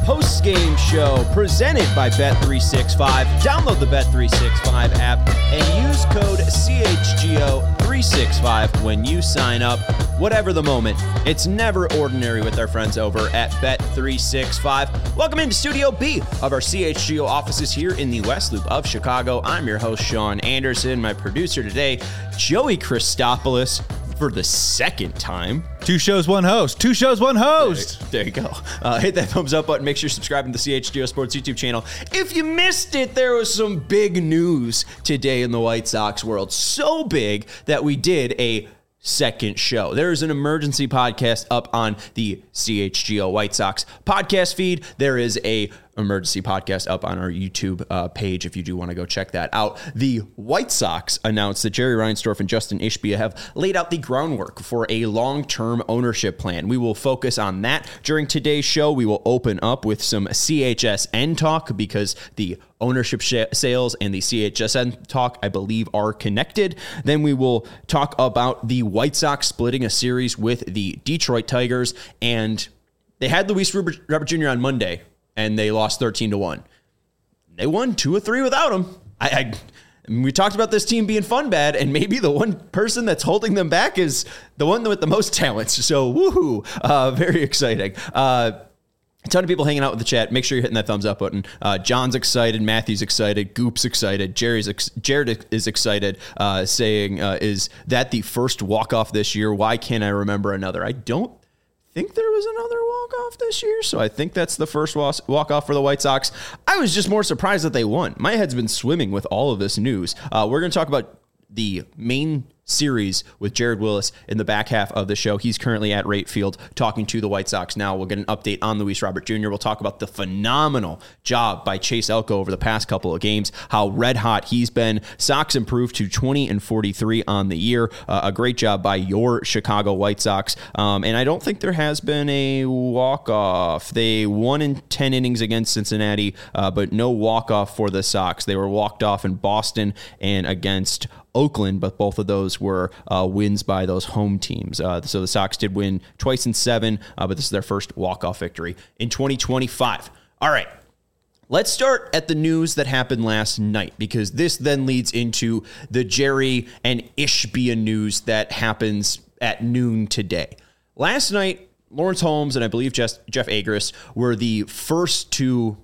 post-game show presented by Bet365. Download the Bet365 app and use code CHGO365 when you sign up. Whatever the moment, it's never ordinary with our friends over at Bet365. Welcome into Studio B of our CHGO offices here in the West Loop of Chicago. I'm your host, Sean Anderson. My producer today, Joey Christopoulos, for the second time. Two shows, one host. There you go. Hit that thumbs up button. Make sure you're subscribing to the CHGO Sports YouTube channel. If you missed it, there was some big news today in the White Sox world. So big that we did a second show. There is an emergency podcast up on the CHGO White Sox podcast feed. There is a emergency podcast up on our YouTube page if you do want to go check that out. The White Sox announced that Jerry Reinsdorf and Justin Ishbia have laid out the groundwork for a long-term ownership plan. We will focus on that during today's show. We will open up with some CHSN talk because the ownership sales and the CHSN talk, I believe, are connected. Then we will talk about the White Sox splitting a series with the Detroit Tigers, and they had Luis Robert Jr. on Monday, and they lost 13-1. They won 2 of 3 without him. We talked about this team being fun bad, and maybe the one person that's holding them back is the one with the most talents. So, woohoo! Very exciting. A ton of people hanging out with the chat. Make sure you're hitting that thumbs up button. John's excited. Matthew's excited. Goop's excited. Jared is excited, saying, is that the first walk-off this year? Why can't I remember another? I don't think there was another walk-off this year, so I think that's the first walk-off for the White Sox. I was just more surprised that they won. My head's been swimming with all of this news. We're going to talk about the main series with Jared Willis in the back half of the show. He's currently at Rate Field talking to the White Sox now. We'll get an update on Luis Robert Jr. We'll talk about the phenomenal job by Chase Elko over the past couple of games, how red hot he's been. Sox improved to 20-43 on the year. A great job by your Chicago White Sox. And I don't think there has been a walk-off. They won in 10 innings against Cincinnati, but no walk-off for the Sox. They were walked off in Boston and against Oakland, but both of those were wins by those home teams. So the Sox did win twice in 7, but this is their first walk-off victory in 2025. All right, let's start at the news that happened last night, because this then leads into the Jerry and Ishbia news that happens at noon today. Last night, Lawrence Holmes and I believe Jeff Agris were the first to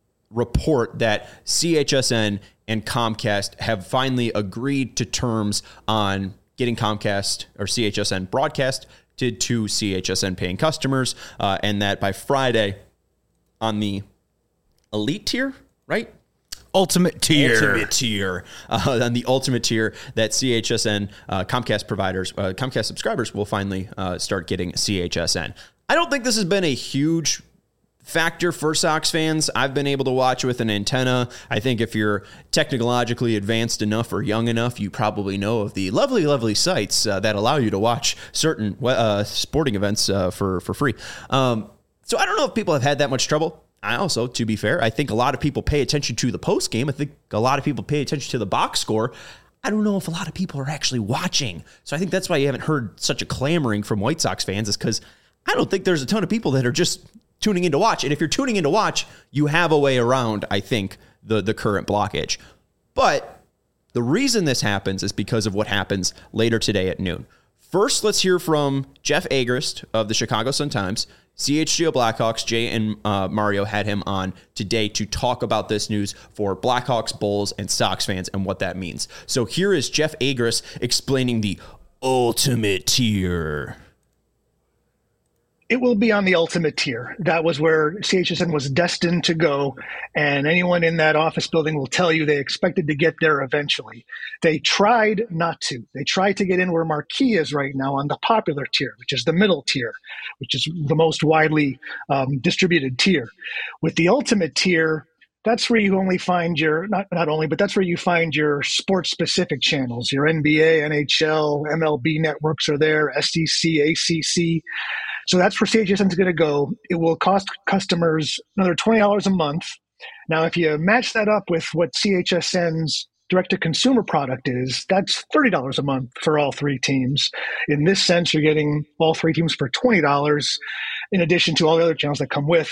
report that CHSN and Comcast have finally agreed to terms on getting Comcast or CHSN broadcasted to CHSN paying customers, and that by Friday on the elite tier, right? Ultimate tier. On the ultimate tier that CHSN Comcast providers, Comcast subscribers will finally start getting CHSN. I don't think this has been a huge factor for Sox fans. I've been able to watch with an antenna. I think if you're technologically advanced enough or young enough, you probably know of the lovely, lovely sites that allow you to watch certain sporting events for free. So I don't know if people have had that much trouble. I also, to be fair, I think a lot of people pay attention to the post game. I think a lot of people pay attention to the box score. I don't know if a lot of people are actually watching. So I think that's why you haven't heard such a clamoring from White Sox fans, is because I don't think there's a ton of people that are just tuning in to watch. And if you're tuning in to watch, you have a way around, I think, the current blockage. But the reason this happens is because of what happens later today at noon. First, let's hear from Jeff Agrist of the Chicago Sun-Times. CHGO Blackhawks, Jay and Mario had him on today to talk about this news for Blackhawks, Bulls, and Sox fans and what that means. So here is Jeff Agrist explaining the ultimate tier. It will be on the ultimate tier. That was where CHSN was destined to go, and anyone in that office building will tell you they expected to get there eventually. They tried not to. They tried to get in where Marquee is right now on the popular tier, which is the middle tier, which is the most widely distributed tier. With the ultimate tier, that's where you only find your, not only, but that's where you find your sports-specific channels. Your NBA, NHL, MLB networks are there, SEC, ACC. So that's where CHSN is going to go. It will cost customers another $20 a month. Now, if you match that up with what CHSN's direct-to-consumer product is, that's $30 a month for all three teams. In this sense, you're getting all three teams for $20, in addition to all the other channels that come with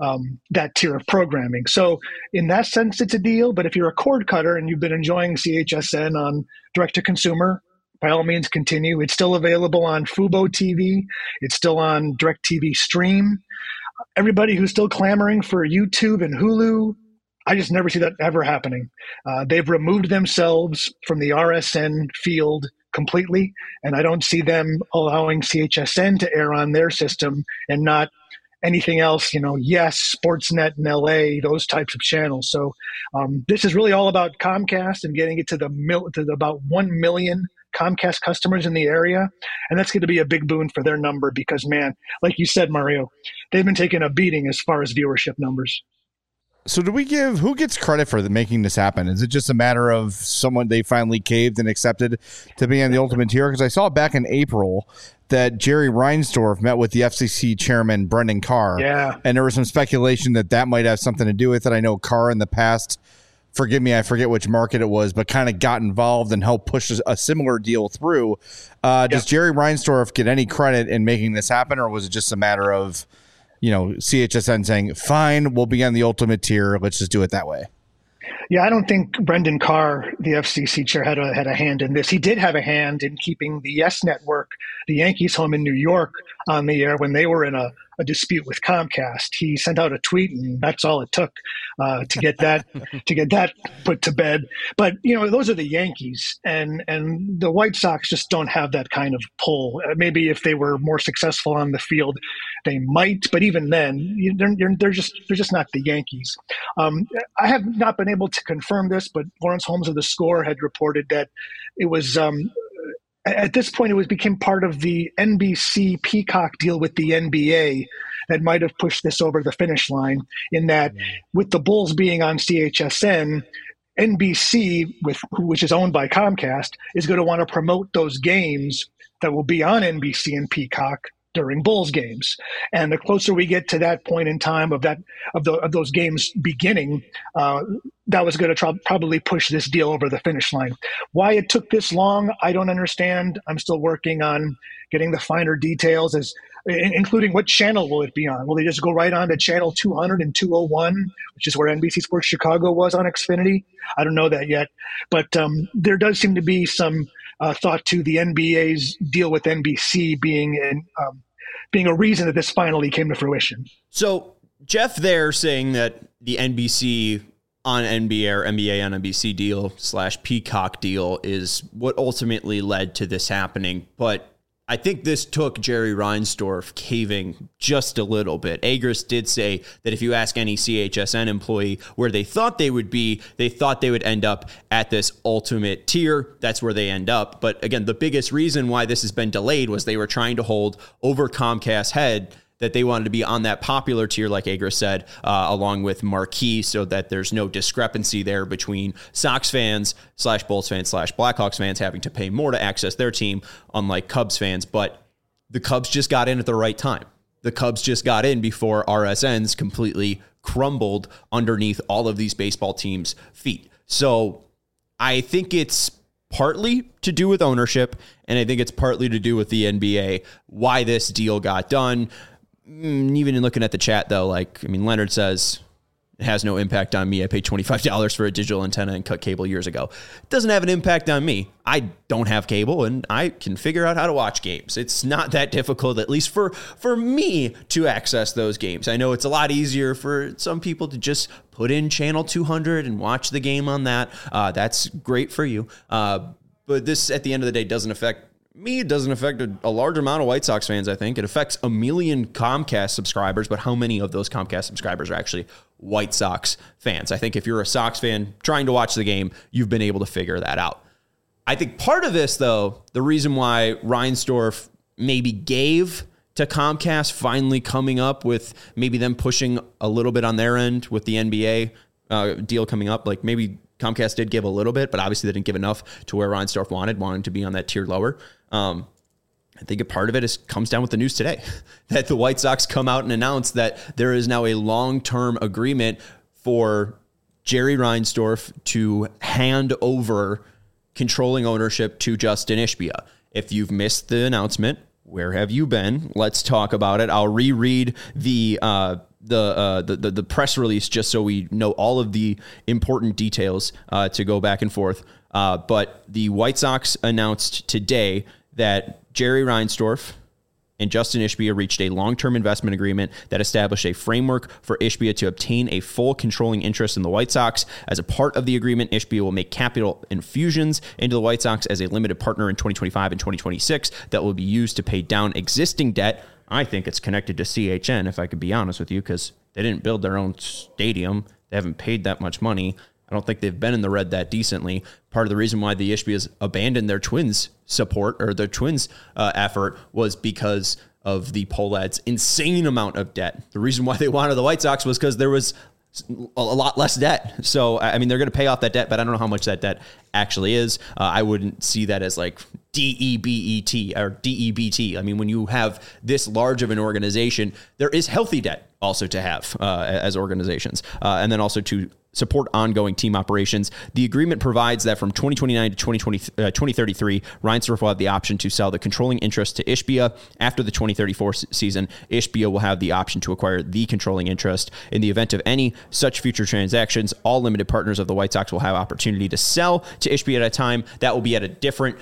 that tier of programming. So in that sense, it's a deal. But if you're a cord cutter and you've been enjoying CHSN on direct to consumer, by all means, continue. It's still available on Fubo TV. It's still on DirecTV Stream. Everybody who's still clamoring for YouTube and Hulu, I just never see that ever happening. They've removed themselves from the RSN field completely, and I don't see them allowing CHSN to air on their system and not anything else, Yes, Sportsnet in LA, those types of channels. So this is really all about Comcast and getting it to about 1 million Comcast customers in the area. And that's going to be a big boon for their number because, man, like you said, Mario, they've been taking a beating as far as viewership numbers. So who gets credit for making this happen? Is it just a matter of someone they finally caved and accepted to be on the ultimate tier? Because I saw back in April that Jerry Reinsdorf met with the FCC chairman, Brendan Carr. Yeah. And there was some speculation that might have something to do with it. I know Carr in the past, forgive me, I forget which market it was, but kind of got involved and helped push a similar deal through. Does Jerry Reinsdorf get any credit in making this happen, or was it just a matter of CHSN saying, fine, we'll be on the ultimate tier, let's just do it that way? Yeah, I don't think Brendan Carr, the FCC chair, had a hand in this. He did have a hand in keeping the Yes Network, the Yankees home in New York, on the air when they were in a dispute with Comcast. He sent out a tweet, and that's all it took to get that put to bed. But those are the Yankees, and the White Sox just don't have that kind of pull. Maybe if they were more successful on the field, they might. But even then, they're just not the Yankees. I have not been able to confirm this, but Lawrence Holmes of The Score had reported that it was. At this point, it became part of the NBC Peacock deal with the NBA that might have pushed this over the finish line, in that with the Bulls being on CHSN, NBC, which is owned by Comcast, is going to want to promote those games that will be on NBC and Peacock during Bulls games. And the closer we get to that point in time of those games beginning, that was going to probably push this deal over the finish line. Why it took this long, I don't understand. I'm still working on getting the finer details, including what channel will it be on. Will they just go right on to channel 200 and 201, which is where NBC Sports Chicago was on Xfinity? I don't know that yet. But there does seem to be some thought to the NBA's deal with NBC being a reason that this finally came to fruition. So Jeff there saying that the NBC on NBA or NBA on NBC deal / Peacock deal is what ultimately led to this happening. But I think this took Jerry Reinsdorf caving just a little bit. Agris did say that if you ask any CHSN employee where they thought they would be, they thought they would end up at this ultimate tier. That's where they end up. But again, the biggest reason why this has been delayed was they were trying to hold over Comcast's head that they wanted to be on that popular tier, like Agris said, along with Marquee, so that there's no discrepancy there between Sox fans / Bulls fans / Blackhawks fans having to pay more to access their team, unlike Cubs fans. But the Cubs just got in at the right time. The Cubs just got in before RSNs completely crumbled underneath all of these baseball teams' feet. So I think it's partly to do with ownership, and I think it's partly to do with the NBA, why this deal got done. Even in looking at the chat, though, Leonard says it has no impact on me. I paid $25 for a digital antenna and cut cable years ago. It doesn't have an impact on me. I don't have cable, and I can figure out how to watch games. It's not that difficult, at least for me, to access those games. I know it's a lot easier for some people to just put in channel 200 and watch the game on that. That's great for you. But this, at the end of the day, doesn't affect me. It doesn't affect a large amount of White Sox fans, I think. It affects 1 million Comcast subscribers, but how many of those Comcast subscribers are actually White Sox fans? I think if you're a Sox fan trying to watch the game, you've been able to figure that out. I think part of this, though, the reason why Reinsdorf maybe gave to Comcast finally coming up with maybe them pushing a little bit on their end with the NBA deal coming up, maybe Comcast did give a little bit, but obviously they didn't give enough to where Reinsdorf wanted to be on that tier lower. I think a part of it comes down with the news today that the White Sox come out and announce that there is now a long-term agreement for Jerry Reinsdorf to hand over controlling ownership to Justin Ishbia. If you've missed the announcement, where have you been? Let's talk about it. I'll reread the the press release just so we know all of the important details to go back and forth. But the White Sox announced today that Jerry Reinsdorf and Justin Ishbia reached a long-term investment agreement that established a framework for Ishbia to obtain a full controlling interest in the White Sox. As a part of the agreement, Ishbia will make capital infusions into the White Sox as a limited partner in 2025 and 2026 that will be used to pay down existing debt. I think it's connected to CHN, if I could be honest with you, because they didn't build their own stadium. They haven't paid that much money. I don't think they've been in the red that decently. Part of the reason why the Ishbias abandoned their Twins support or their Twins effort was because of the Pohlads' insane amount of debt. The reason why they wanted the White Sox was because there was a lot less debt. So, I mean, they're going to pay off that debt, but I don't know how much that debt actually is. I wouldn't see that as like DEBET or DEBT. I mean, when you have this large of an organization, there is healthy debt also to have as organizations. And then also to support ongoing team operations. The agreement provides that from 2029 to 2033, Reinsdorf will have the option to sell the controlling interest to Ishbia. After the 2034 season, Ishbia will have the option to acquire the controlling interest. In the event of any such future transactions, all limited partners of the White Sox will have opportunity to sell to Ishbia at a time. That will be at a different,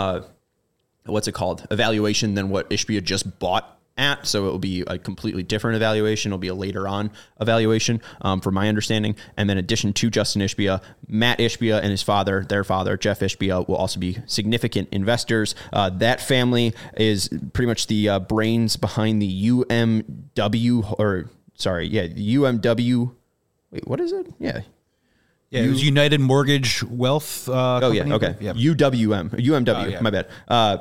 evaluation than what Ishbia just bought at. So it will be a completely different evaluation. It'll be a later on evaluation, from my understanding. And then in addition to Justin Ishbia, Matt Ishbia and his father, their father, Jeff Ishbia, will also be significant investors. That family is pretty much the brains behind the UMW. Wait, what is it? Yeah. Yeah, it was United Mortgage Wealth. Okay. Yeah. UMW. My bad.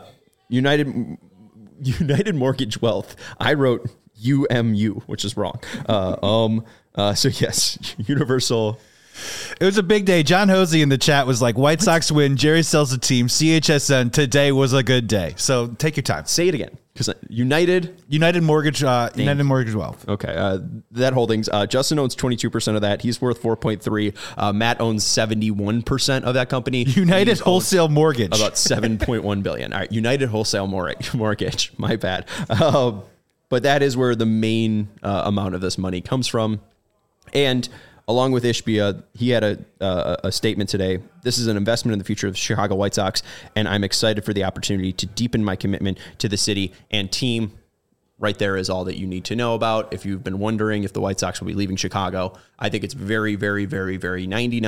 United Mortgage Wealth. I wrote UMU, which is wrong. So yes, Universal. It was a big day. John Hosey in the chat was like, White Sox win, Jerry sells the team, CHSN, today was a good day. So take your time. Say it again. Because United Mortgage Wealth. Okay. That holdings. Justin owns 22% of that. He's worth 4.3. Matt owns 71% of that company. United Wholesale Mortgage. About 7.1 billion. All right. United Wholesale Mortgage. My bad. But that is where the main amount of this money comes from. And along with Ishbia, he had a statement today. This is an investment in the future of the Chicago White Sox, and I'm excited for the opportunity to deepen my commitment to the city and team. Right there is all that you need to know about. If you've been wondering if the White Sox will be leaving Chicago, I think it's very, very, very, very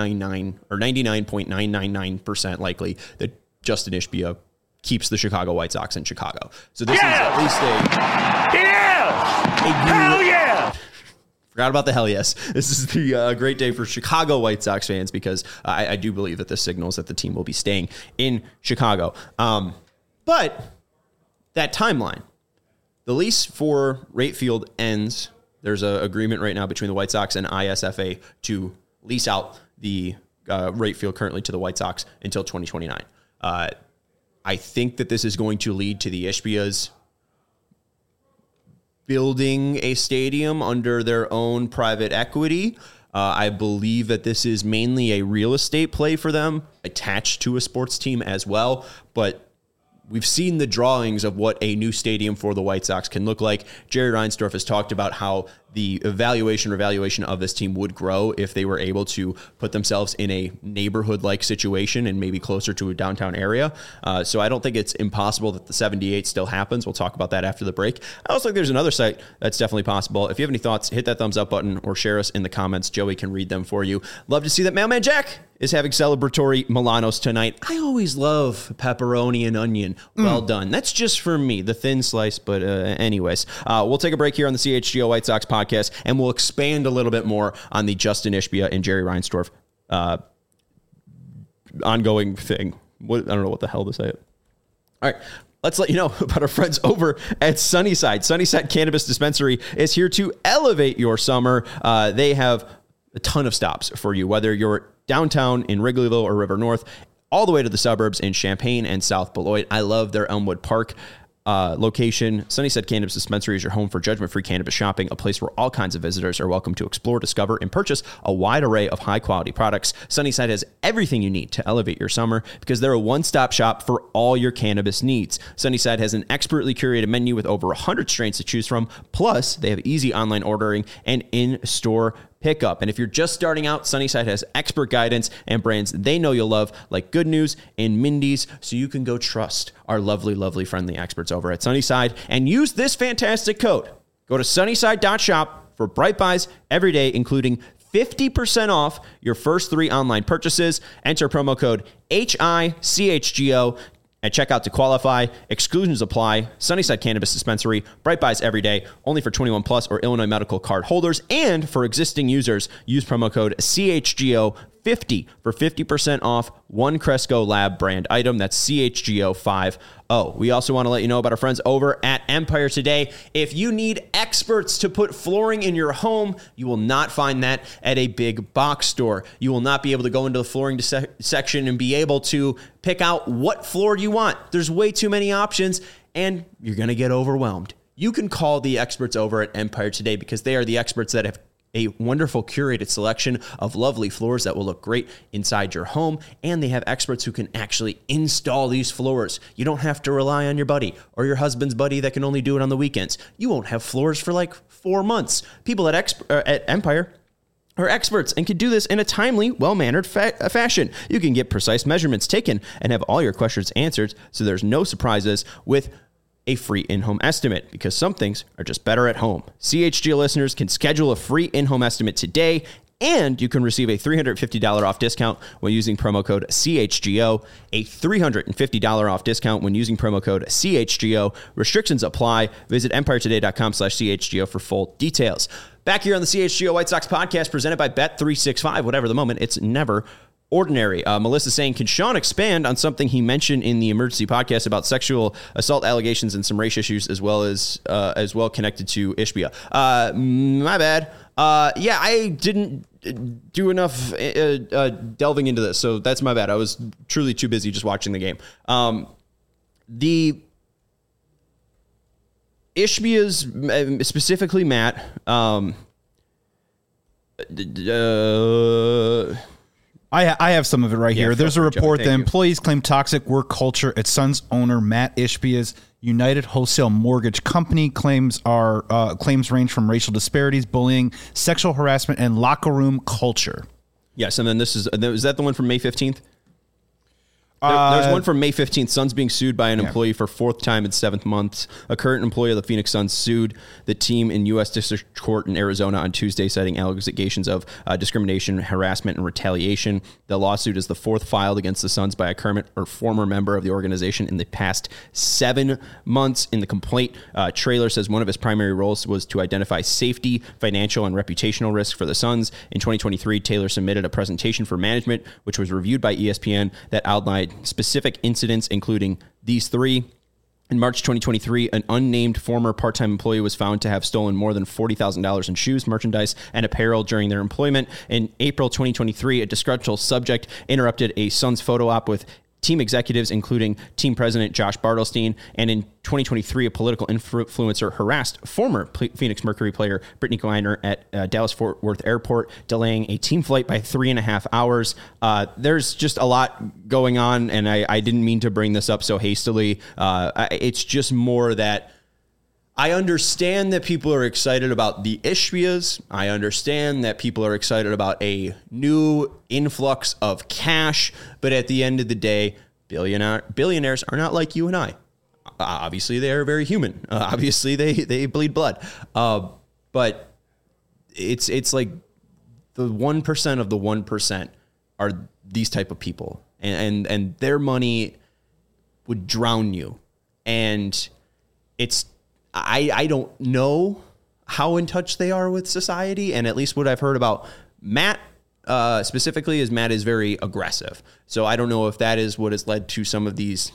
99.999% likely that Justin Ishbia keeps the Chicago White Sox in Chicago. So this is at least hell yeah! Forgot about the hell yes. This is the great day for Chicago White Sox fans because I do believe that this signals that the team will be staying in Chicago. But that timeline, the lease for Rate Field ends. There's an agreement right now between the White Sox and ISFA to lease out the Rate Field currently to the White Sox until 2029. I think that this is going to lead to the Ishbias building a stadium under their own private equity. I believe that this is mainly a real estate play for them, attached to a sports team as well. But we've seen the drawings of what a new stadium for the White Sox can look like. Jerry Reinsdorf has talked about how the revaluation of this team would grow if they were able to put themselves in a neighborhood-like situation and maybe closer to a downtown area. So I don't think it's impossible that the 78 still happens. We'll talk about that after the break. I also think there's another site that's definitely possible. If you have any thoughts, hit that thumbs up button or share us in the comments. Joey can read them for you. Love to see that Mailman Jack is having celebratory Milanos tonight. I always love pepperoni and onion. Well done. That's just for me, the thin slice. But anyways, we'll take a break here on the CHGO White Sox podcast, and we'll expand a little bit more on the Justin Ishbia and Jerry Reinsdorf ongoing thing. I don't know what the hell to say. All right. Let's let you know about our friends over at Sunnyside. Sunnyside Cannabis Dispensary is here to elevate your summer. They have a ton of stops for you, whether you're downtown in Wrigleyville or River North, all the way to the suburbs in Champaign and South Beloit. I love their Elmwood Park location. Sunnyside Cannabis Dispensary is your home for judgment-free cannabis shopping, a place where all kinds of visitors are welcome to explore, discover, and purchase a wide array of high-quality products. Sunnyside has everything you need to elevate your summer because they're a one-stop shop for all your cannabis needs. Sunnyside has an expertly curated menu with over 100 strains to choose from. Plus, they have easy online ordering and in-store pickup. And if you're just starting out, Sunnyside has expert guidance and brands they know you'll love, like Good News and Mindy's, so you can go trust our lovely, lovely, friendly experts over at Sunnyside and use this fantastic code. Go to sunnyside.shop for Bright Buys every day, including 50% off your first 3 online purchases. Enter promo code HICHGO at checkout to qualify. Exclusions apply. Sunnyside Cannabis Dispensary. Bright Buys every day. Only for 21 plus or Illinois medical card holders. And for existing users, use promo code CHGO50 for 50% off one Cresco Lab brand item. That's CHGO50. We also want to let you know about our friends over at Empire Today. If you need experts to put flooring in your home, you will not find that at a big box store. You will not be able to go into the flooring section and be able to pick out what floor you want. There's way too many options, and you're going to get overwhelmed. You can call the experts over at Empire Today because they are the experts that have a wonderful curated selection of lovely floors that will look great inside your home. And they have experts who can actually install these floors. You don't have to rely on your buddy or your husband's buddy that can only do it on the weekends. You won't have floors for like 4 months. People at Empire are experts and can do this in a timely, well-mannered fashion. You can get precise measurements taken and have all your questions answered, so there's no surprises with a free in-home estimate, because some things are just better at home. CHGO listeners can schedule a free in-home estimate today, and you can receive a $350 off discount when using promo code CHGO. A $350 off discount when using promo code CHGO. Restrictions apply. Visit EmpireToday.com/CHGO for full details. Back here on the CHGO White Sox podcast, presented by Bet365. Whatever the moment, it's never ordinary. Melissa saying, can Sean expand on something he mentioned in the emergency podcast about sexual assault allegations and some race issues as well connected to Ishbia? My bad. Yeah, I didn't do enough delving into this, so that's my bad. I was truly too busy just watching the game. The Ishbia's, specifically Matt, I have some of it right here. There's a report that employees claim toxic work culture at Suns owner Matt Ishbia's United Wholesale Mortgage Company. Claims range from racial disparities, bullying, sexual harassment, and locker room culture. Yes, and then is that the one from May 15th? There's one from May 15th. Suns being sued by an employee for 4th time in 7th months. A current employee of the Phoenix Suns sued the team in U.S. District Court in Arizona on Tuesday, citing allegations of discrimination, harassment, and retaliation. The lawsuit is the 4th filed against the Suns by a current or former member of the organization in the past 7 months. In the complaint, Traylor says one of his primary roles was to identify safety, financial, and reputational risks for the Suns. In 2023, Taylor submitted a presentation for management, which was reviewed by ESPN, that outlined specific incidents, including these 3. In March 2023, an unnamed former part-time employee was found to have stolen more than $40,000 in shoes, merchandise, and apparel during their employment. In April 2023, a disgruntled subject interrupted a Suns photo op with team executives, including team president Josh Bartelstein. And in 2023, a political influencer harassed former Phoenix Mercury player Brittany Griner at Dallas-Fort Worth Airport, delaying a team flight by 3.5 hours. There's just a lot going on, and I didn't mean to bring this up so hastily. It's just more that I understand that people are excited about the Ishbias. I understand that people are excited about a new influx of cash. But at the end of the day, billionaires are not like you and I. Obviously, they are very human. Obviously, they bleed blood. But it's like the 1% of the 1% are these type of people. And their money would drown you. And it's... I don't know how in touch they are with society, and at least what I've heard about Matt specifically is Matt is very aggressive. So I don't know if that is what has led to some of these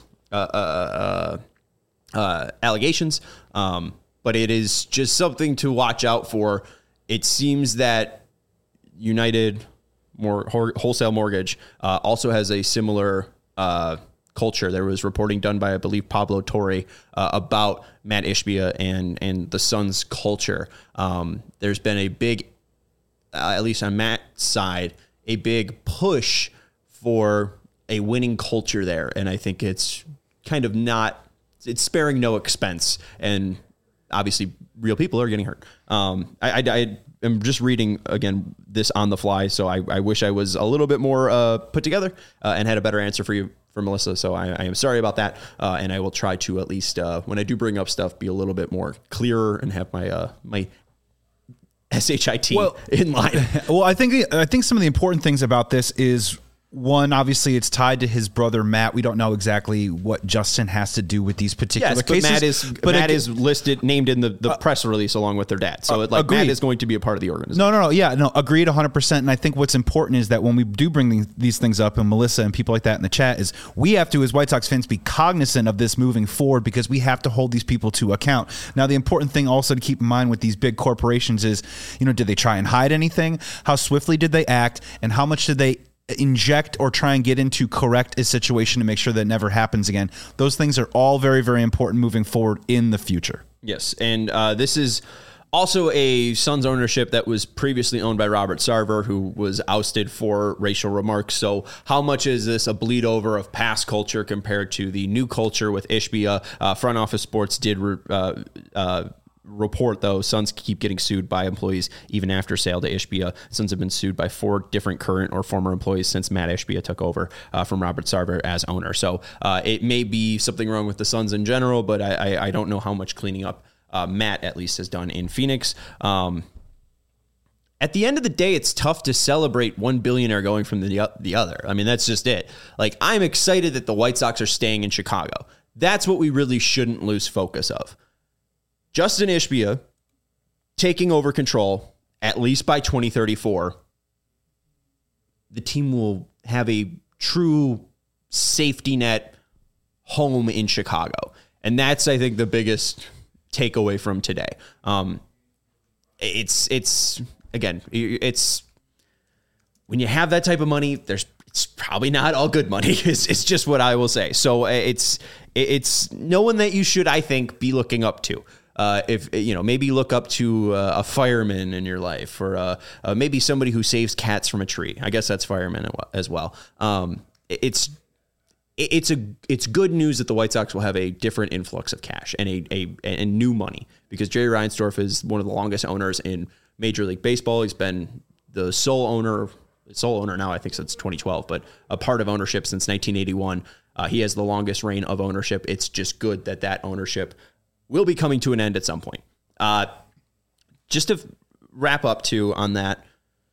allegations, but it is just something to watch out for. It seems that United Wholesale Mortgage also has a similar culture. There was reporting done by, I believe, Pablo Torre about Matt Ishbia and the Suns culture. There's been a big, at least on Matt's side, a big push for a winning culture there. And I think it's kind of it's sparing no expense. And obviously real people are getting hurt. I am just reading, again, this on the fly. So I wish I was a little bit more put together and had a better answer for you, for Melissa. So I am sorry about that. And I will try to, at least when I do bring up stuff, be a little bit more clearer and have my SHIT in line. Well, I think some of the important things about this is, one, obviously it's tied to his brother Matt. We don't know exactly what Justin has to do with these particular cases. Matt is named in the press release along with their dad. So Matt is going to be a part of the organization. No, agreed 100%. And I think what's important is that when we do bring these things up, and Melissa and people like that in the chat, is we have to, as White Sox fans, be cognizant of this moving forward, because we have to hold these people to account. Now, the important thing also to keep in mind with these big corporations is, did they try and hide anything? How swiftly did they act? And how much did they inject or try and get into correct a situation to make sure that never happens again? Those things are all very, very important moving forward in the future. Yes. And this is also a Suns ownership that was previously owned by Robert Sarver, who was ousted for racial remarks. So how much is this a bleed over of past culture compared to the new culture with Ishbia? Front Office Sports did report, though, Suns keep getting sued by employees even after sale to Ishbia. Suns have been sued by 4 different current or former employees since Matt Ishbia took over from Robert Sarver as owner. So it may be something wrong with the Suns in general, but I don't know how much cleaning up Matt at least has done in Phoenix. At the end of the day, it's tough to celebrate one billionaire going from the other. I mean, that's just it. I'm excited that the White Sox are staying in Chicago. That's what we really shouldn't lose focus of. Justin Ishbia taking over control, at least by 2034, the team will have a true safety net home in Chicago. And that's, I think, the biggest takeaway from today. It's when you have that type of money, it's probably not all good money. It's just what I will say. So it's no one that you should, I think, be looking up to. If maybe look up to a fireman in your life, or maybe somebody who saves cats from a tree. I guess that's fireman as well. It's good news that the White Sox will have a different influx of cash and a new money, because Jerry Reinsdorf is one of the longest owners in Major League Baseball. He's been the sole owner now, I think, since 2012, but a part of ownership since 1981. He has the longest reign of ownership. It's just good that ownership will be coming to an end at some point. Just to wrap up on that,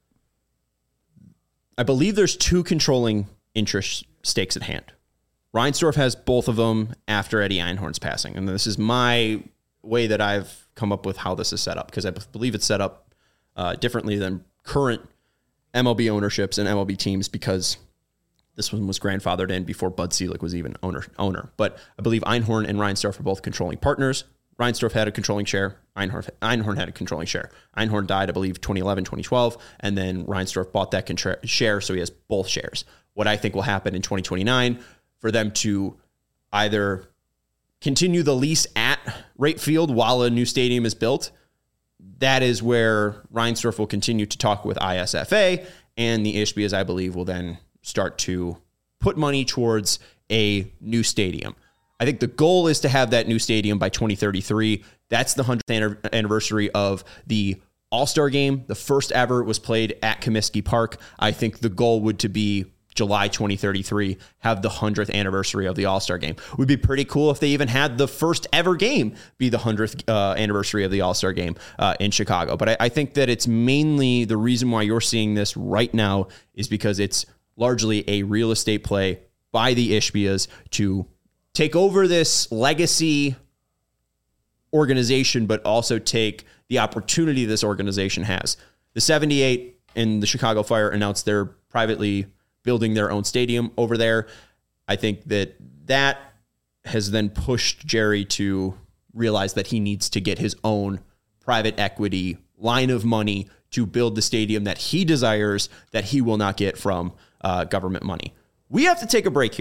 I believe there's 2 controlling interest stakes at hand. Reinsdorf has both of them after Eddie Einhorn's passing. And this is my way that I've come up with how this is set up, because I believe it's set up differently than current MLB ownerships and MLB teams, because this one was grandfathered in before Bud Selig was even owner. But I believe Einhorn and Reinsdorf are both controlling partners. Reinsdorf had a controlling share. Einhorn had a controlling share. Einhorn died, I believe, 2011, 2012, and then Reinsdorf bought that share, so he has both shares. What I think will happen in 2029, for them to either continue the lease at Wright Field while a new stadium is built, that is where Reinsdorf will continue to talk with ISFA, and the Ishbias, I believe, will then start to put money towards a new stadium. I think the goal is to have that new stadium by 2033. That's the 100th anniversary of the All-Star Game. The first ever was played at Comiskey Park. I think the goal would to be July 2033, have the 100th anniversary of the All-Star Game. It would be pretty cool if they even had the first ever game be the 100th anniversary of the All-Star Game in Chicago. But I think that it's mainly the reason why you're seeing this right now is because it's largely a real estate play by the Ishbias to take over this legacy organization, but also take the opportunity this organization has. The 78 and the Chicago Fire announced they're privately building their own stadium over there. I think that has then pushed Jerry to realize that he needs to get his own private equity line of money to build the stadium that he desires, that he will not get from government money. We have to take a break here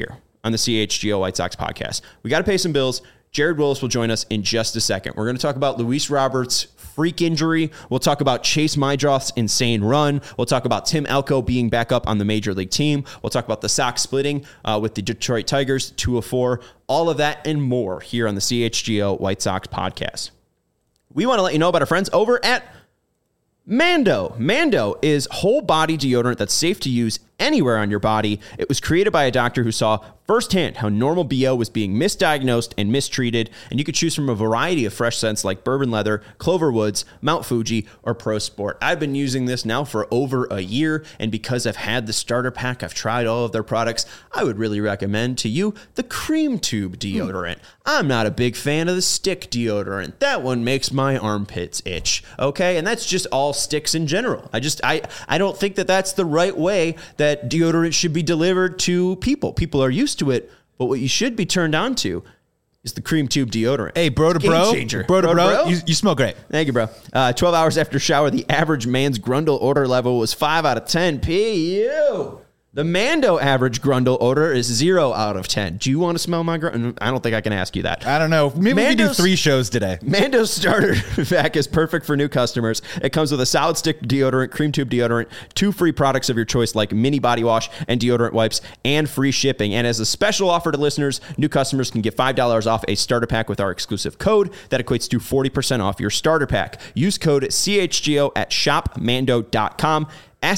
on the CHGO White Sox podcast. We got to pay some bills. Jared Willis will join us in just a second. We're going to talk about Luis Roberts' freak injury. We'll talk about Chase Meidroth's insane run. We'll talk about Tim Elko being back up on the Major League team. We'll talk about the Sox splitting with the Detroit Tigers 2-4. All of that and more here on the CHGO White Sox podcast. We want to let you know about our friends over at Mando. Mando is whole body deodorant that's safe to use anywhere on your body. It was created by a doctor who saw firsthand how normal BO was being misdiagnosed and mistreated, and you could choose from a variety of fresh scents like Bourbon Leather, Clover Woods, Mount Fuji, or Pro Sport. I've been using this now for over a year, and because I've had the starter pack, I've tried all of their products, I would really recommend to you the Cream Tube deodorant. I'm not a big fan of the stick deodorant. That one makes my armpits itch, okay? And that's just all sticks in general. I don't think that that's the right way that deodorant should be delivered to people. People are used to it, but what you should be turned on to is the Cream Tube deodorant. Hey, bro to bro. Bro to bro. You smell great. Thank you, bro. 12 hours after shower, the average man's Grundle odor level was 5 out of 10. P.U. The Mando average Grundle odor is 0 out of 10. Do you want to smell my Grundle? I don't think I can ask you that. I don't know. Maybe we can do 3 shows today. Mando's starter pack is perfect for new customers. It comes with a solid stick deodorant, Cream Tube deodorant, 2 free products of your choice like mini body wash and deodorant wipes, and free shipping. And as a special offer to listeners, new customers can get $5 off a starter pack with our exclusive code. That equates to 40% off your starter pack. Use code CHGO at shopmando.com.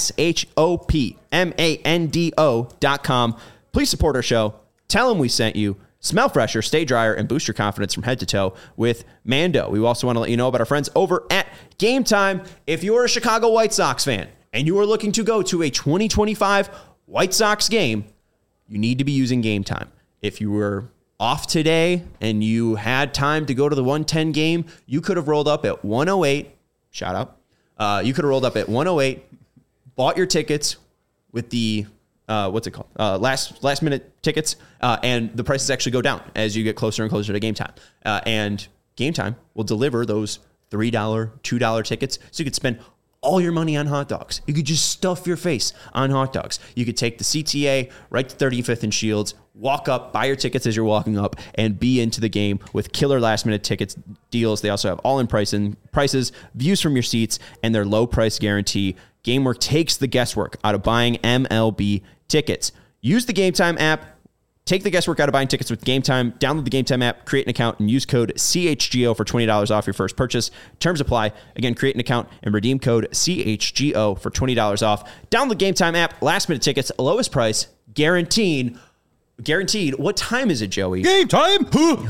SHOPMANDO.com. Please support our show. Tell them we sent you. Smell fresher, stay drier, and boost your confidence from head to toe with Mando. We also want to let you know about our friends over at Game Time. If you're a Chicago White Sox fan and you are looking to go to a 2025 White Sox game, you need to be using Game Time. If you were off today and you had time to go to the 110 game, you could have rolled up at 108. Shout out. You could have rolled up at 108. Bought your tickets with the last minute tickets, and the prices actually go down as you get closer and closer to game time. And Game Time will deliver those $3, $2 tickets, so you could spend all your money on hot dogs. You could just stuff your face on hot dogs. You could take the CTA right to 35th and Shields, walk up, buy your tickets as you're walking up, and be into the game with killer last-minute tickets deals. They also have all-in prices, views from your seats, and their low-price guarantee. GameWork takes the guesswork out of buying MLB tickets. Use the Game Time app. Take the guesswork out of buying tickets with Game Time. Download the Game Time app, create an account, and use code CHGO for $20 off your first purchase. Terms apply. Again, create an account and redeem code CHGO for $20 off. Download the Game Time app. Last-minute tickets, lowest price, guaranteed. What time is it, Joey? Game time. Hit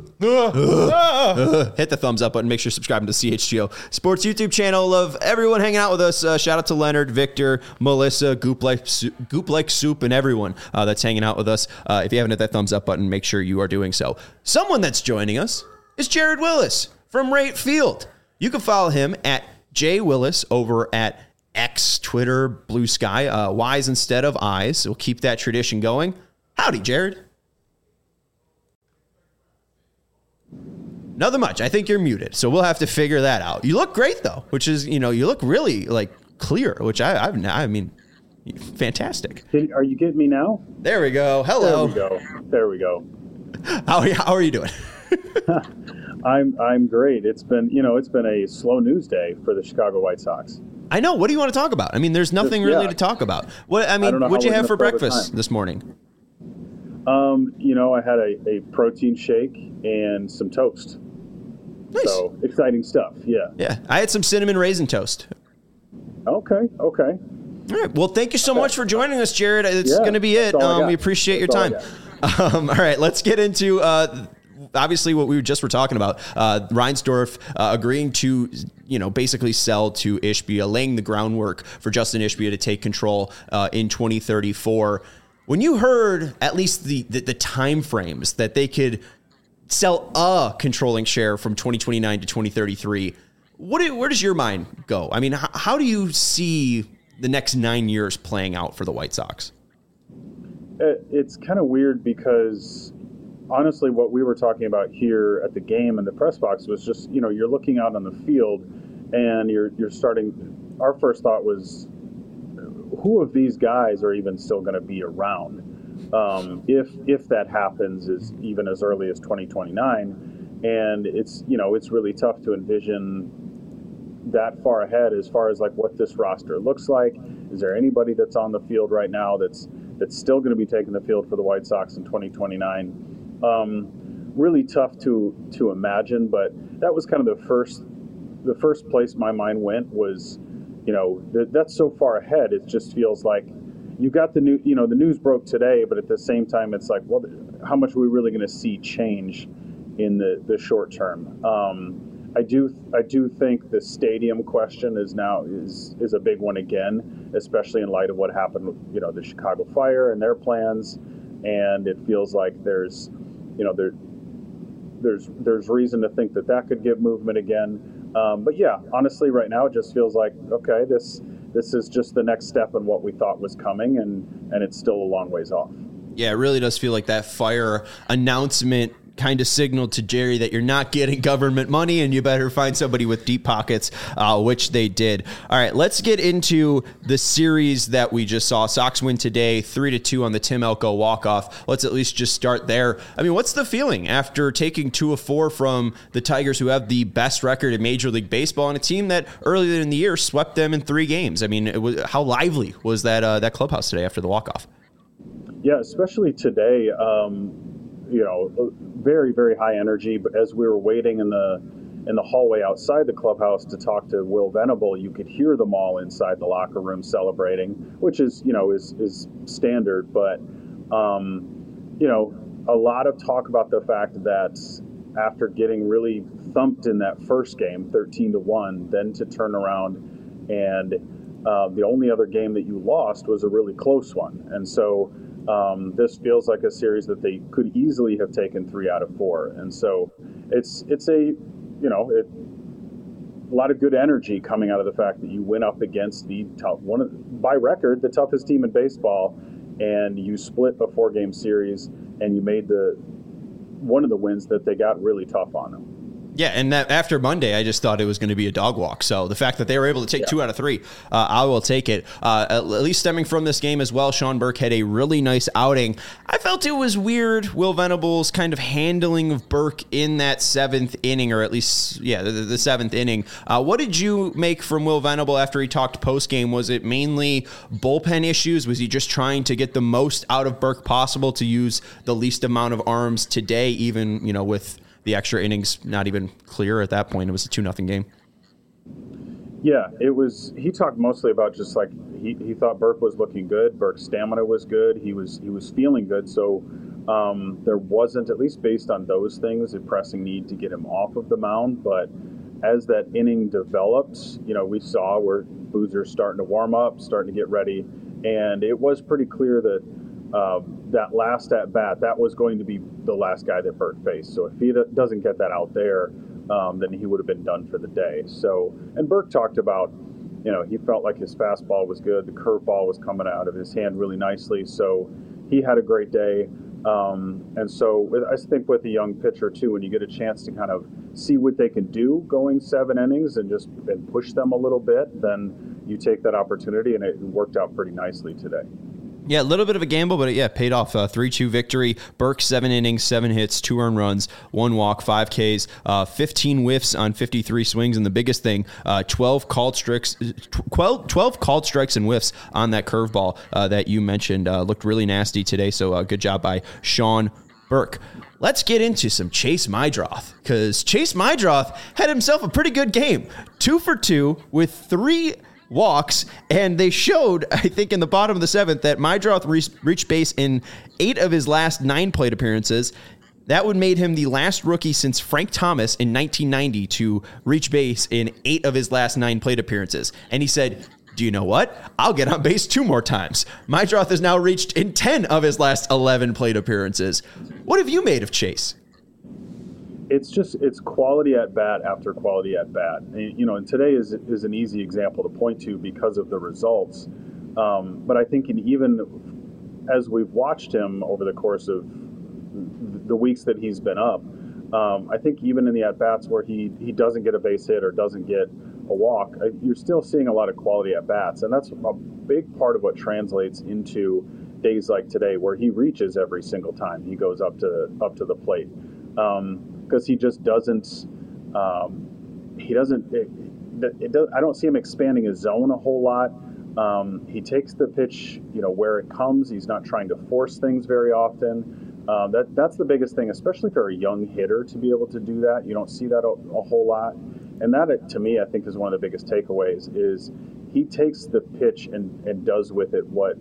the thumbs up button. Make sure you're subscribing to the CHGO Sports YouTube channel. Love everyone hanging out with us. Shout out to Leonard, Victor, Melissa, Goop Like Soup, and everyone that's hanging out with us. If you haven't hit that thumbs up button, make sure you are doing so. Someone that's joining us is Jared Willis from Right Field. You can follow him at J Willis over at X, Twitter, Blue Sky. Y's instead of I's. We'll keep that tradition going. Howdy, Jared. Nothing much. I think you're muted, so we'll have to figure that out. You look great, though, which is, you look really, clear, which I mean, fantastic. Are you getting me now? There we go. Hello. There we go. How are you doing? I'm great. It's been a slow news day for the Chicago White Sox. I know. What do you want to talk about? I mean, there's nothing really to talk about. What'd you have for breakfast this morning? I had a protein shake and some toast. Nice. So exciting stuff. Yeah. Yeah. I had some cinnamon raisin toast. Okay. All right. Well, thank you so much for joining us, Jared. It's going to be it. We appreciate your time. All right. Let's get into obviously what we just were talking about. Reinsdorf agreeing to, basically sell to Ishbia, laying the groundwork for Justin Ishbia to take control in 2034. When you heard at least the time frames that they could sell a controlling share from 2029 to 2033, where does your mind go? I mean, how do you see the next 9 years playing out for the White Sox? It's kind of weird because honestly, what we were talking about here at the game and the press box was just, you're looking out on the field and you're starting. Our first thought was, who of these guys are even still going to be around? if that happens is even as early as 2029. And it's really tough to envision that far ahead as far as like what this roster looks like. Is there anybody that's on the field right now that's still going to be taking the field for the White Sox in 2029? Really tough to imagine, but that was kind of the first place my mind went was, that's so far ahead. It just feels like you got the news broke today, but at the same time, it's like, well, how much are we really going to see change in the short term? I do think the stadium question is a big one again, especially in light of what happened with, the Chicago Fire and their plans. And it feels like there's reason to think that could give movement again. But yeah, honestly, right now it just feels like, okay, this is just the next step in what we thought was coming, and it's still a long ways off. Yeah, it really does feel like that Fire announcement kind of signaled to Jerry that you're not getting government money and you better find somebody with deep pockets, which they did. All right, let's get into the series that we just saw. Sox win today, 3-2 on the Tim Elko walk-off. Let's at least just start there. I mean, what's the feeling after taking 2 of 4 from the Tigers, who have the best record in Major League Baseball, and a team that earlier in the year swept them in 3 games? I mean, how lively was that clubhouse today after the walk-off? Yeah, especially today. Very, very high energy. But as we were waiting in the hallway outside the clubhouse to talk to Will Venable, you could hear them all inside the locker room celebrating, which is standard. But a lot of talk about the fact that after getting really thumped in that first game, 13-1, then to turn around and the only other game that you lost was a really close one, and so. This feels like a series that they could easily have taken 3 out of 4, and so it's a lot of good energy coming out of the fact that you went up against by record the toughest team in baseball, and you split a 4-game series, and you made one of the wins that they got really tough on them. Yeah, and that after Monday, I just thought it was going to be a dog walk. So the fact that they were able to take 2 out of 3, I will take it. At least stemming from this game as well, Sean Burke had a really nice outing. I felt it was weird, Will Venable's kind of handling of Burke in that 7th inning, or at least, the 7th inning. What did you make from Will Venable after he talked post-game? Was it mainly bullpen issues? Was he just trying to get the most out of Burke possible to use the least amount of arms today, even, with the extra innings not even clear at that point? It was a 2-0 game. Yeah, it was. He talked mostly about just like he thought Burke was looking good. Burke's stamina was good. He was feeling good. So there wasn't, at least based on those things, a pressing need to get him off of the mound. But as that inning developed, we saw where Boozer's starting to warm up, starting to get ready, and it was pretty clear that that last at bat, that was going to be the last guy that Burke faced. So if he doesn't get that out there, then he would have been done for the day. So, and Burke talked about, he felt like his fastball was good. The curveball was coming out of his hand really nicely. So he had a great day. And so I think with a young pitcher too, when you get a chance to kind of see what they can do going 7 innings and push them a little bit, then you take that opportunity, and it worked out pretty nicely today. Yeah, a little bit of a gamble, but it paid off. 3-2 victory. Burke, 7 innings, 7 hits, 2 earned runs, 1 walk, 5 Ks, 15 whiffs on 53 swings, and the biggest thing, 12 called strikes and whiffs on that curveball that you mentioned. Looked really nasty today, so good job by Sean Burke. Let's get into some Chase Meidroth, because Chase Meidroth had himself a pretty good game. 2 for 2 with 3 walks, and they showed, I think, in the bottom of the 7th that Meidroth reached base in 8 of his last 9 plate appearances. That would made him the last rookie since Frank Thomas in 1990 to reach base in 8 of his last 9 plate appearances. And he said, do you know what? I'll get on base 2 more times. Meidroth has now reached in 10 of his last 11 plate appearances. What have you made of Chase? It's quality at bat after quality at bat. And today is an easy example to point to because of the results. But I think even as we've watched him over the course of the weeks that he's been up, I think even in the at bats where he doesn't get a base hit or doesn't get a walk, you're still seeing a lot of quality at bats, and that's a big part of what translates into days like today where he reaches every single time he goes up to the plate, because he just doesn't. He doesn't. I don't see him expanding his zone a whole lot. He takes the pitch, where it comes. He's not trying to force things very often. That's the biggest thing, especially for a young hitter, to be able to do that. You don't see that a whole lot. And that, to me, I think is one of the biggest takeaways is he takes the pitch and does with it what,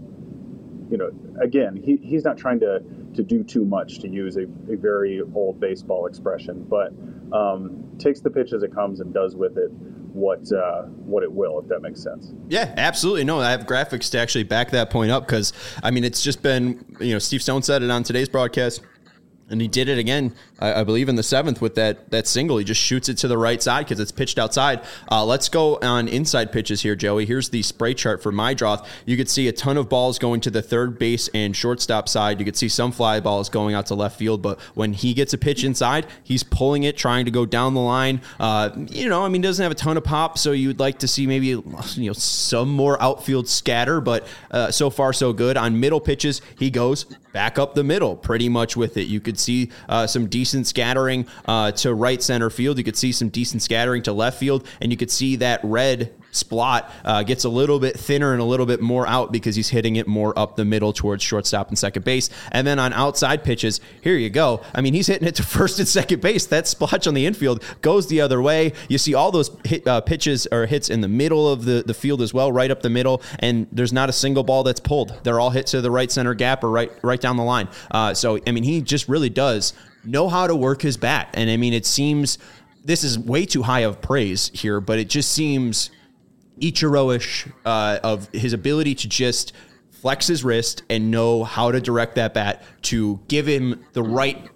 again, he's not trying to do too much, to use a very old baseball expression, but takes the pitch as it comes and does with it what it will, if that makes sense. Yeah, absolutely. No, I have graphics to actually back that point up because, it's just been, Steve Stone said it on today's broadcast. And he did it again, I believe, in the 7th with that single. He just shoots it to the right side because it's pitched outside. Let's go on inside pitches here, Joey. Here's the spray chart for Meidroth. You could see a ton of balls going to the third base and shortstop side. You could see some fly balls going out to left field. But when he gets a pitch inside, he's pulling it, trying to go down the line. He doesn't have a ton of pop, so you'd like to see maybe some more outfield scatter. But so far, so good. On middle pitches, he goes back up the middle pretty much with it. You could see some decent scattering to right center field. You could see some decent scattering to left field, and you could see that red Splot gets a little bit thinner and a little bit more out because he's hitting it more up the middle towards shortstop and second base. And then on outside pitches, here you go. He's hitting it to first and second base. That splotch on the infield goes the other way. You see all those pitches or hits in the middle of the field as well, right up the middle, and there's not a single ball that's pulled. They're all hit to the right center gap or right down the line. So he just really does know how to work his bat. And it seems, this is way too high of praise here, but it just seems Ichiro-ish of his ability to just flex his wrist and know how to direct that bat to give him the right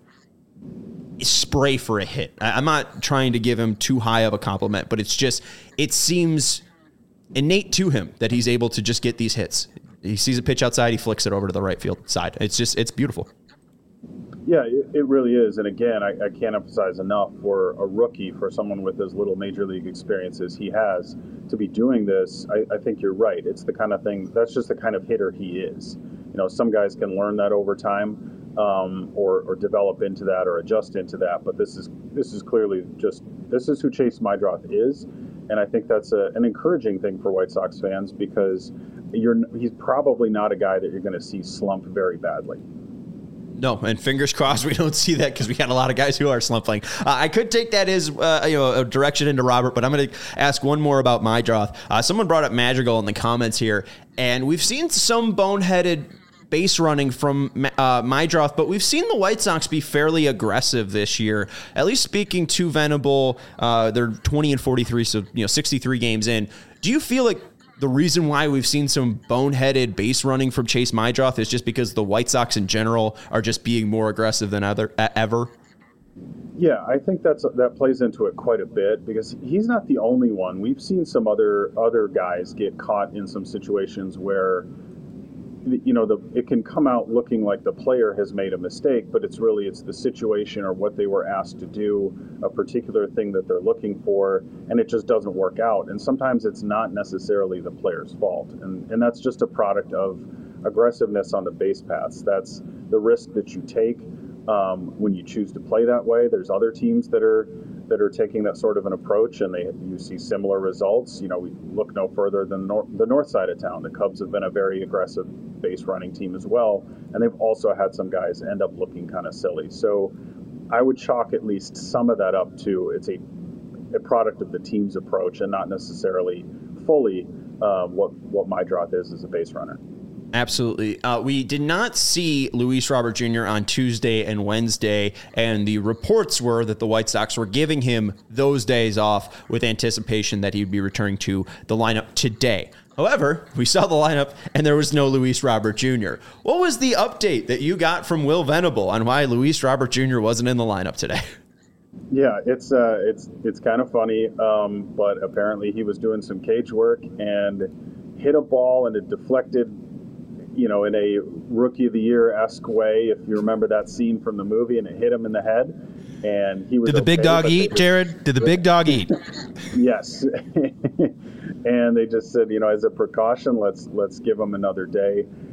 spray for a hit. I'm not trying to give him too high of a compliment, but it seems innate to him that he's able to just get these hits. He sees a pitch outside, he flicks it over to the right field side. It's beautiful. Yeah, it really is. And again, I can't emphasize enough, for a rookie, for someone with as little major league experience as he has, to be doing this. I think you're right. It's the kind of thing, that's just the kind of hitter he is. Some guys can learn that over time, or develop into that or adjust into that. But this is clearly this is who Chase Meidroth is. And I think that's an encouraging thing for White Sox fans, because he's probably not a guy that you're going to see slump very badly. No, and fingers crossed we don't see that, because we got a lot of guys who are slumping. I could take that as a direction into Robert, but I'm going to ask one more about Meidroth. Someone brought up Madrigal in the comments here, and we've seen some boneheaded base running from Meidroth, but we've seen the White Sox be fairly aggressive this year. At least speaking to Venable, they're 20-43, so 63 games in. Do you feel like the reason why we've seen some boneheaded base running from Chase Meidroth is just because the White Sox in general are just being more aggressive than ever? Yeah, I think that plays into it quite a bit, because he's not the only one. We've seen some other guys get caught in some situations where it can come out looking like the player has made a mistake, but it's the situation or what they were asked to do, a particular thing that they're looking for, and it just doesn't work out. And sometimes it's not necessarily the player's fault, and that's just a product of aggressiveness on the base paths. That's the risk that you take when you choose to play that way. There's other teams that are taking that sort of an approach, and you see similar results. We look no further than the north side of town. The Cubs have been a very aggressive base running team as well, and they've also had some guys end up looking kind of silly. So I would chalk at least some of that up to it's a product of the team's approach, and not necessarily fully what Meidroth is as a base runner. Absolutely. We did not see Luis Robert Jr. on Tuesday and Wednesday, and the reports were that the White Sox were giving him those days off with anticipation that he would be returning to the lineup today. However, we saw the lineup, and there was no Luis Robert Jr. What was the update that you got from Will Venable on why Luis Robert Jr. wasn't in the lineup today? Yeah, it's kind of funny, but apparently he was doing some cage work and hit a ball, and it deflected, in a Rookie of the Year-esque way, if you remember that scene from the movie, and it hit him in the head. And he was. Did the big dog eat, Jared? Did the big dog eat? Yes. And they just said, as a precaution, let's give him another day.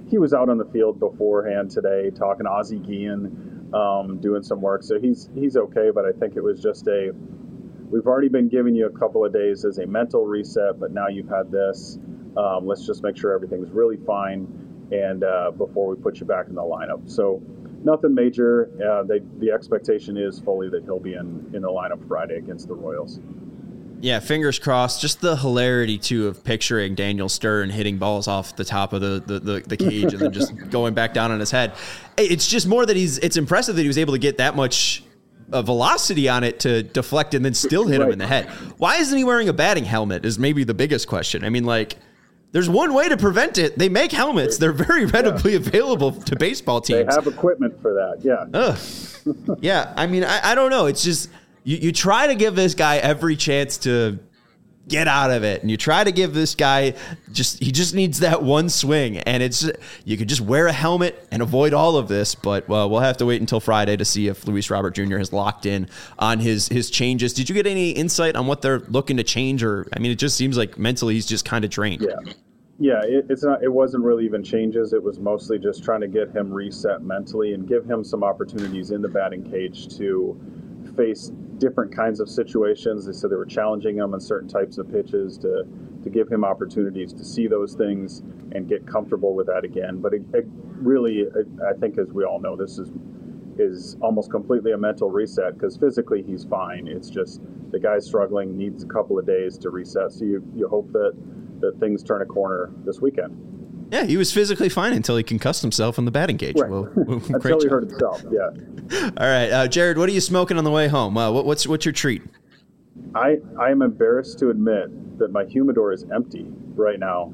he was out on the field beforehand today talking to Ozzie Guillen, doing some work. So he's okay, but I think it was just we've already been giving you a couple of days as a mental reset, but now you've had this. Let's just make sure everything's really fine and before we put you back in the lineup. So nothing major. The expectation is fully that he'll be in the lineup Friday against the Royals. Yeah, fingers crossed. Just the hilarity, too, of picturing Daniel Stern hitting balls off the top of the cage and then just going back down on his head. It's just more that it's impressive that he was able to get that much velocity on it to deflect and then still hit him in the head. Why isn't he wearing a batting helmet is maybe the biggest question. I mean, like, there's one way to prevent it. They make helmets. They're very readily available to baseball teams. They have equipment for that, yeah. Yeah, I mean, I don't know. It's just... You try to give this guy every chance to get out of it, and you try to give this guy he just needs that one swing, and you could just wear a helmet and avoid all of this, but we'll have to wait until Friday to see if Luis Robert Jr. has locked in on his changes. Did you get any insight on what they're looking to change? Or, I mean, it just seems like mentally he's just kind of drained. Yeah, it wasn't really even changes. It was mostly just trying to get him reset mentally and give him some opportunities in the batting cage to face different kinds of situations. They said they were challenging him on certain types of pitches to give him opportunities to see those things and get comfortable with that again. But it really, I think, as we all know, this is almost completely a mental reset, because physically he's fine. It's just the guy's struggling, needs a couple of days to reset. So you hope that things turn a corner this weekend. Yeah, he was physically fine until he concussed himself in the batting cage. Right. Until he hurt himself, yeah. All right, Jared, what are you smoking on the way home? What's your treat? I am embarrassed to admit that my humidor is empty right now.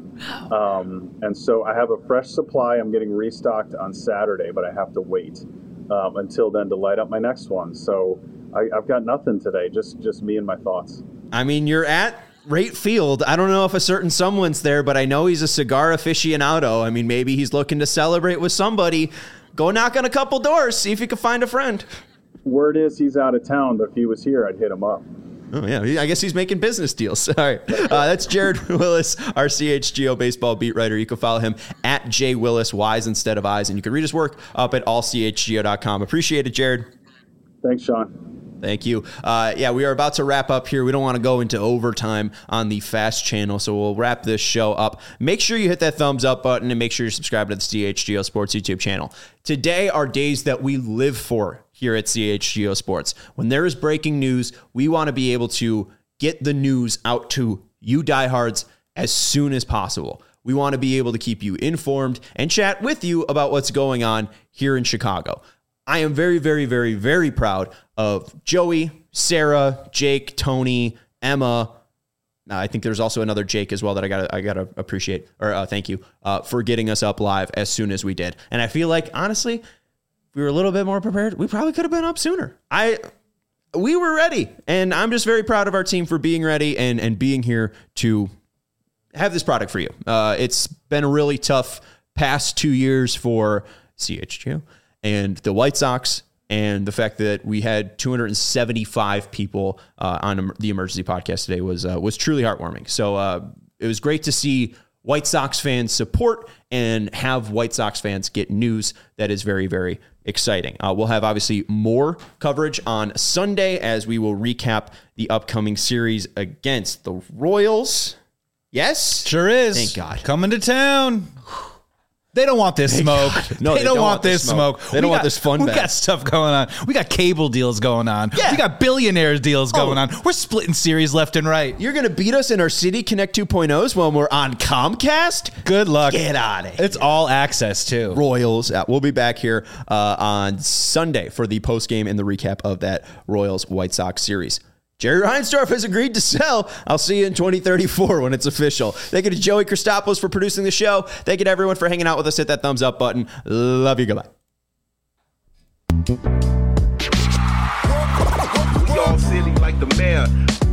And so I have a fresh supply. I'm getting restocked on Saturday, but I have to wait until then to light up my next one. So I've got nothing today, just me and my thoughts. I mean, you're at Rate Field. I don't know if a certain someone's there, but I know he's a cigar aficionado. I mean, maybe he's looking to celebrate with somebody. Go knock on a couple doors, see if you can find a friend. Word is he's out of town, but if he was here, I'd hit him up. Oh, yeah. I guess he's making business deals. All right. That's Jared Willis, our CHGO baseball beat writer. You can follow him at JWillis, Y's instead of I's. And you can read his work up at allchgo.com. Appreciate it, Jared. Thanks, Sean. Thank you. We are about to wrap up here. We don't want to go into overtime on the FAST channel, so we'll wrap this show up. Make sure you hit that thumbs up button and make sure you're subscribed to the CHGO Sports YouTube channel. Today are days that we live for here at CHGO Sports. When there is breaking news, we want to be able to get the news out to you diehards as soon as possible. We want to be able to keep you informed and chat with you about what's going on here in Chicago. I am very, very, very, very proud of Joey, Sarah, Jake, Tony, Emma. I think there's also another Jake as well that I gotta appreciate, or thank you for getting us up live as soon as we did. And I feel like, honestly, if we were a little bit more prepared, we probably could have been up sooner. We were ready, and I'm just very proud of our team for being ready and being here to have this product for you. It's been a really tough past 2 years for CHGO and the White Sox, and the fact that we had 275 people on the emergency podcast today was truly heartwarming. So it was great to see White Sox fans support and have White Sox fans get news that is very, very exciting. We'll have obviously more coverage on Sunday as we will recap the upcoming series against the Royals. Yes? Sure is. Thank God. Coming to town. They don't want this smoke. No, they don't want this smoke. They don't want this fun. We got stuff going on. We got cable deals going on. Yeah. We got billionaires deals going on. We're splitting series left and right. You're going to beat us in our City Connect 2.0s when we're on Comcast? Good luck. Get out of here. It's all access, too. Royals. We'll be back here on Sunday for the postgame and the recap of that Royals-White Sox series. Jerry Reinsdorf has agreed to sell. I'll see you in 2034 when it's official. Thank you to Joey Christopoulos for producing the show. Thank you to everyone for hanging out with us. Hit that thumbs up button. Love you. Goodbye. We all silly like the mayor.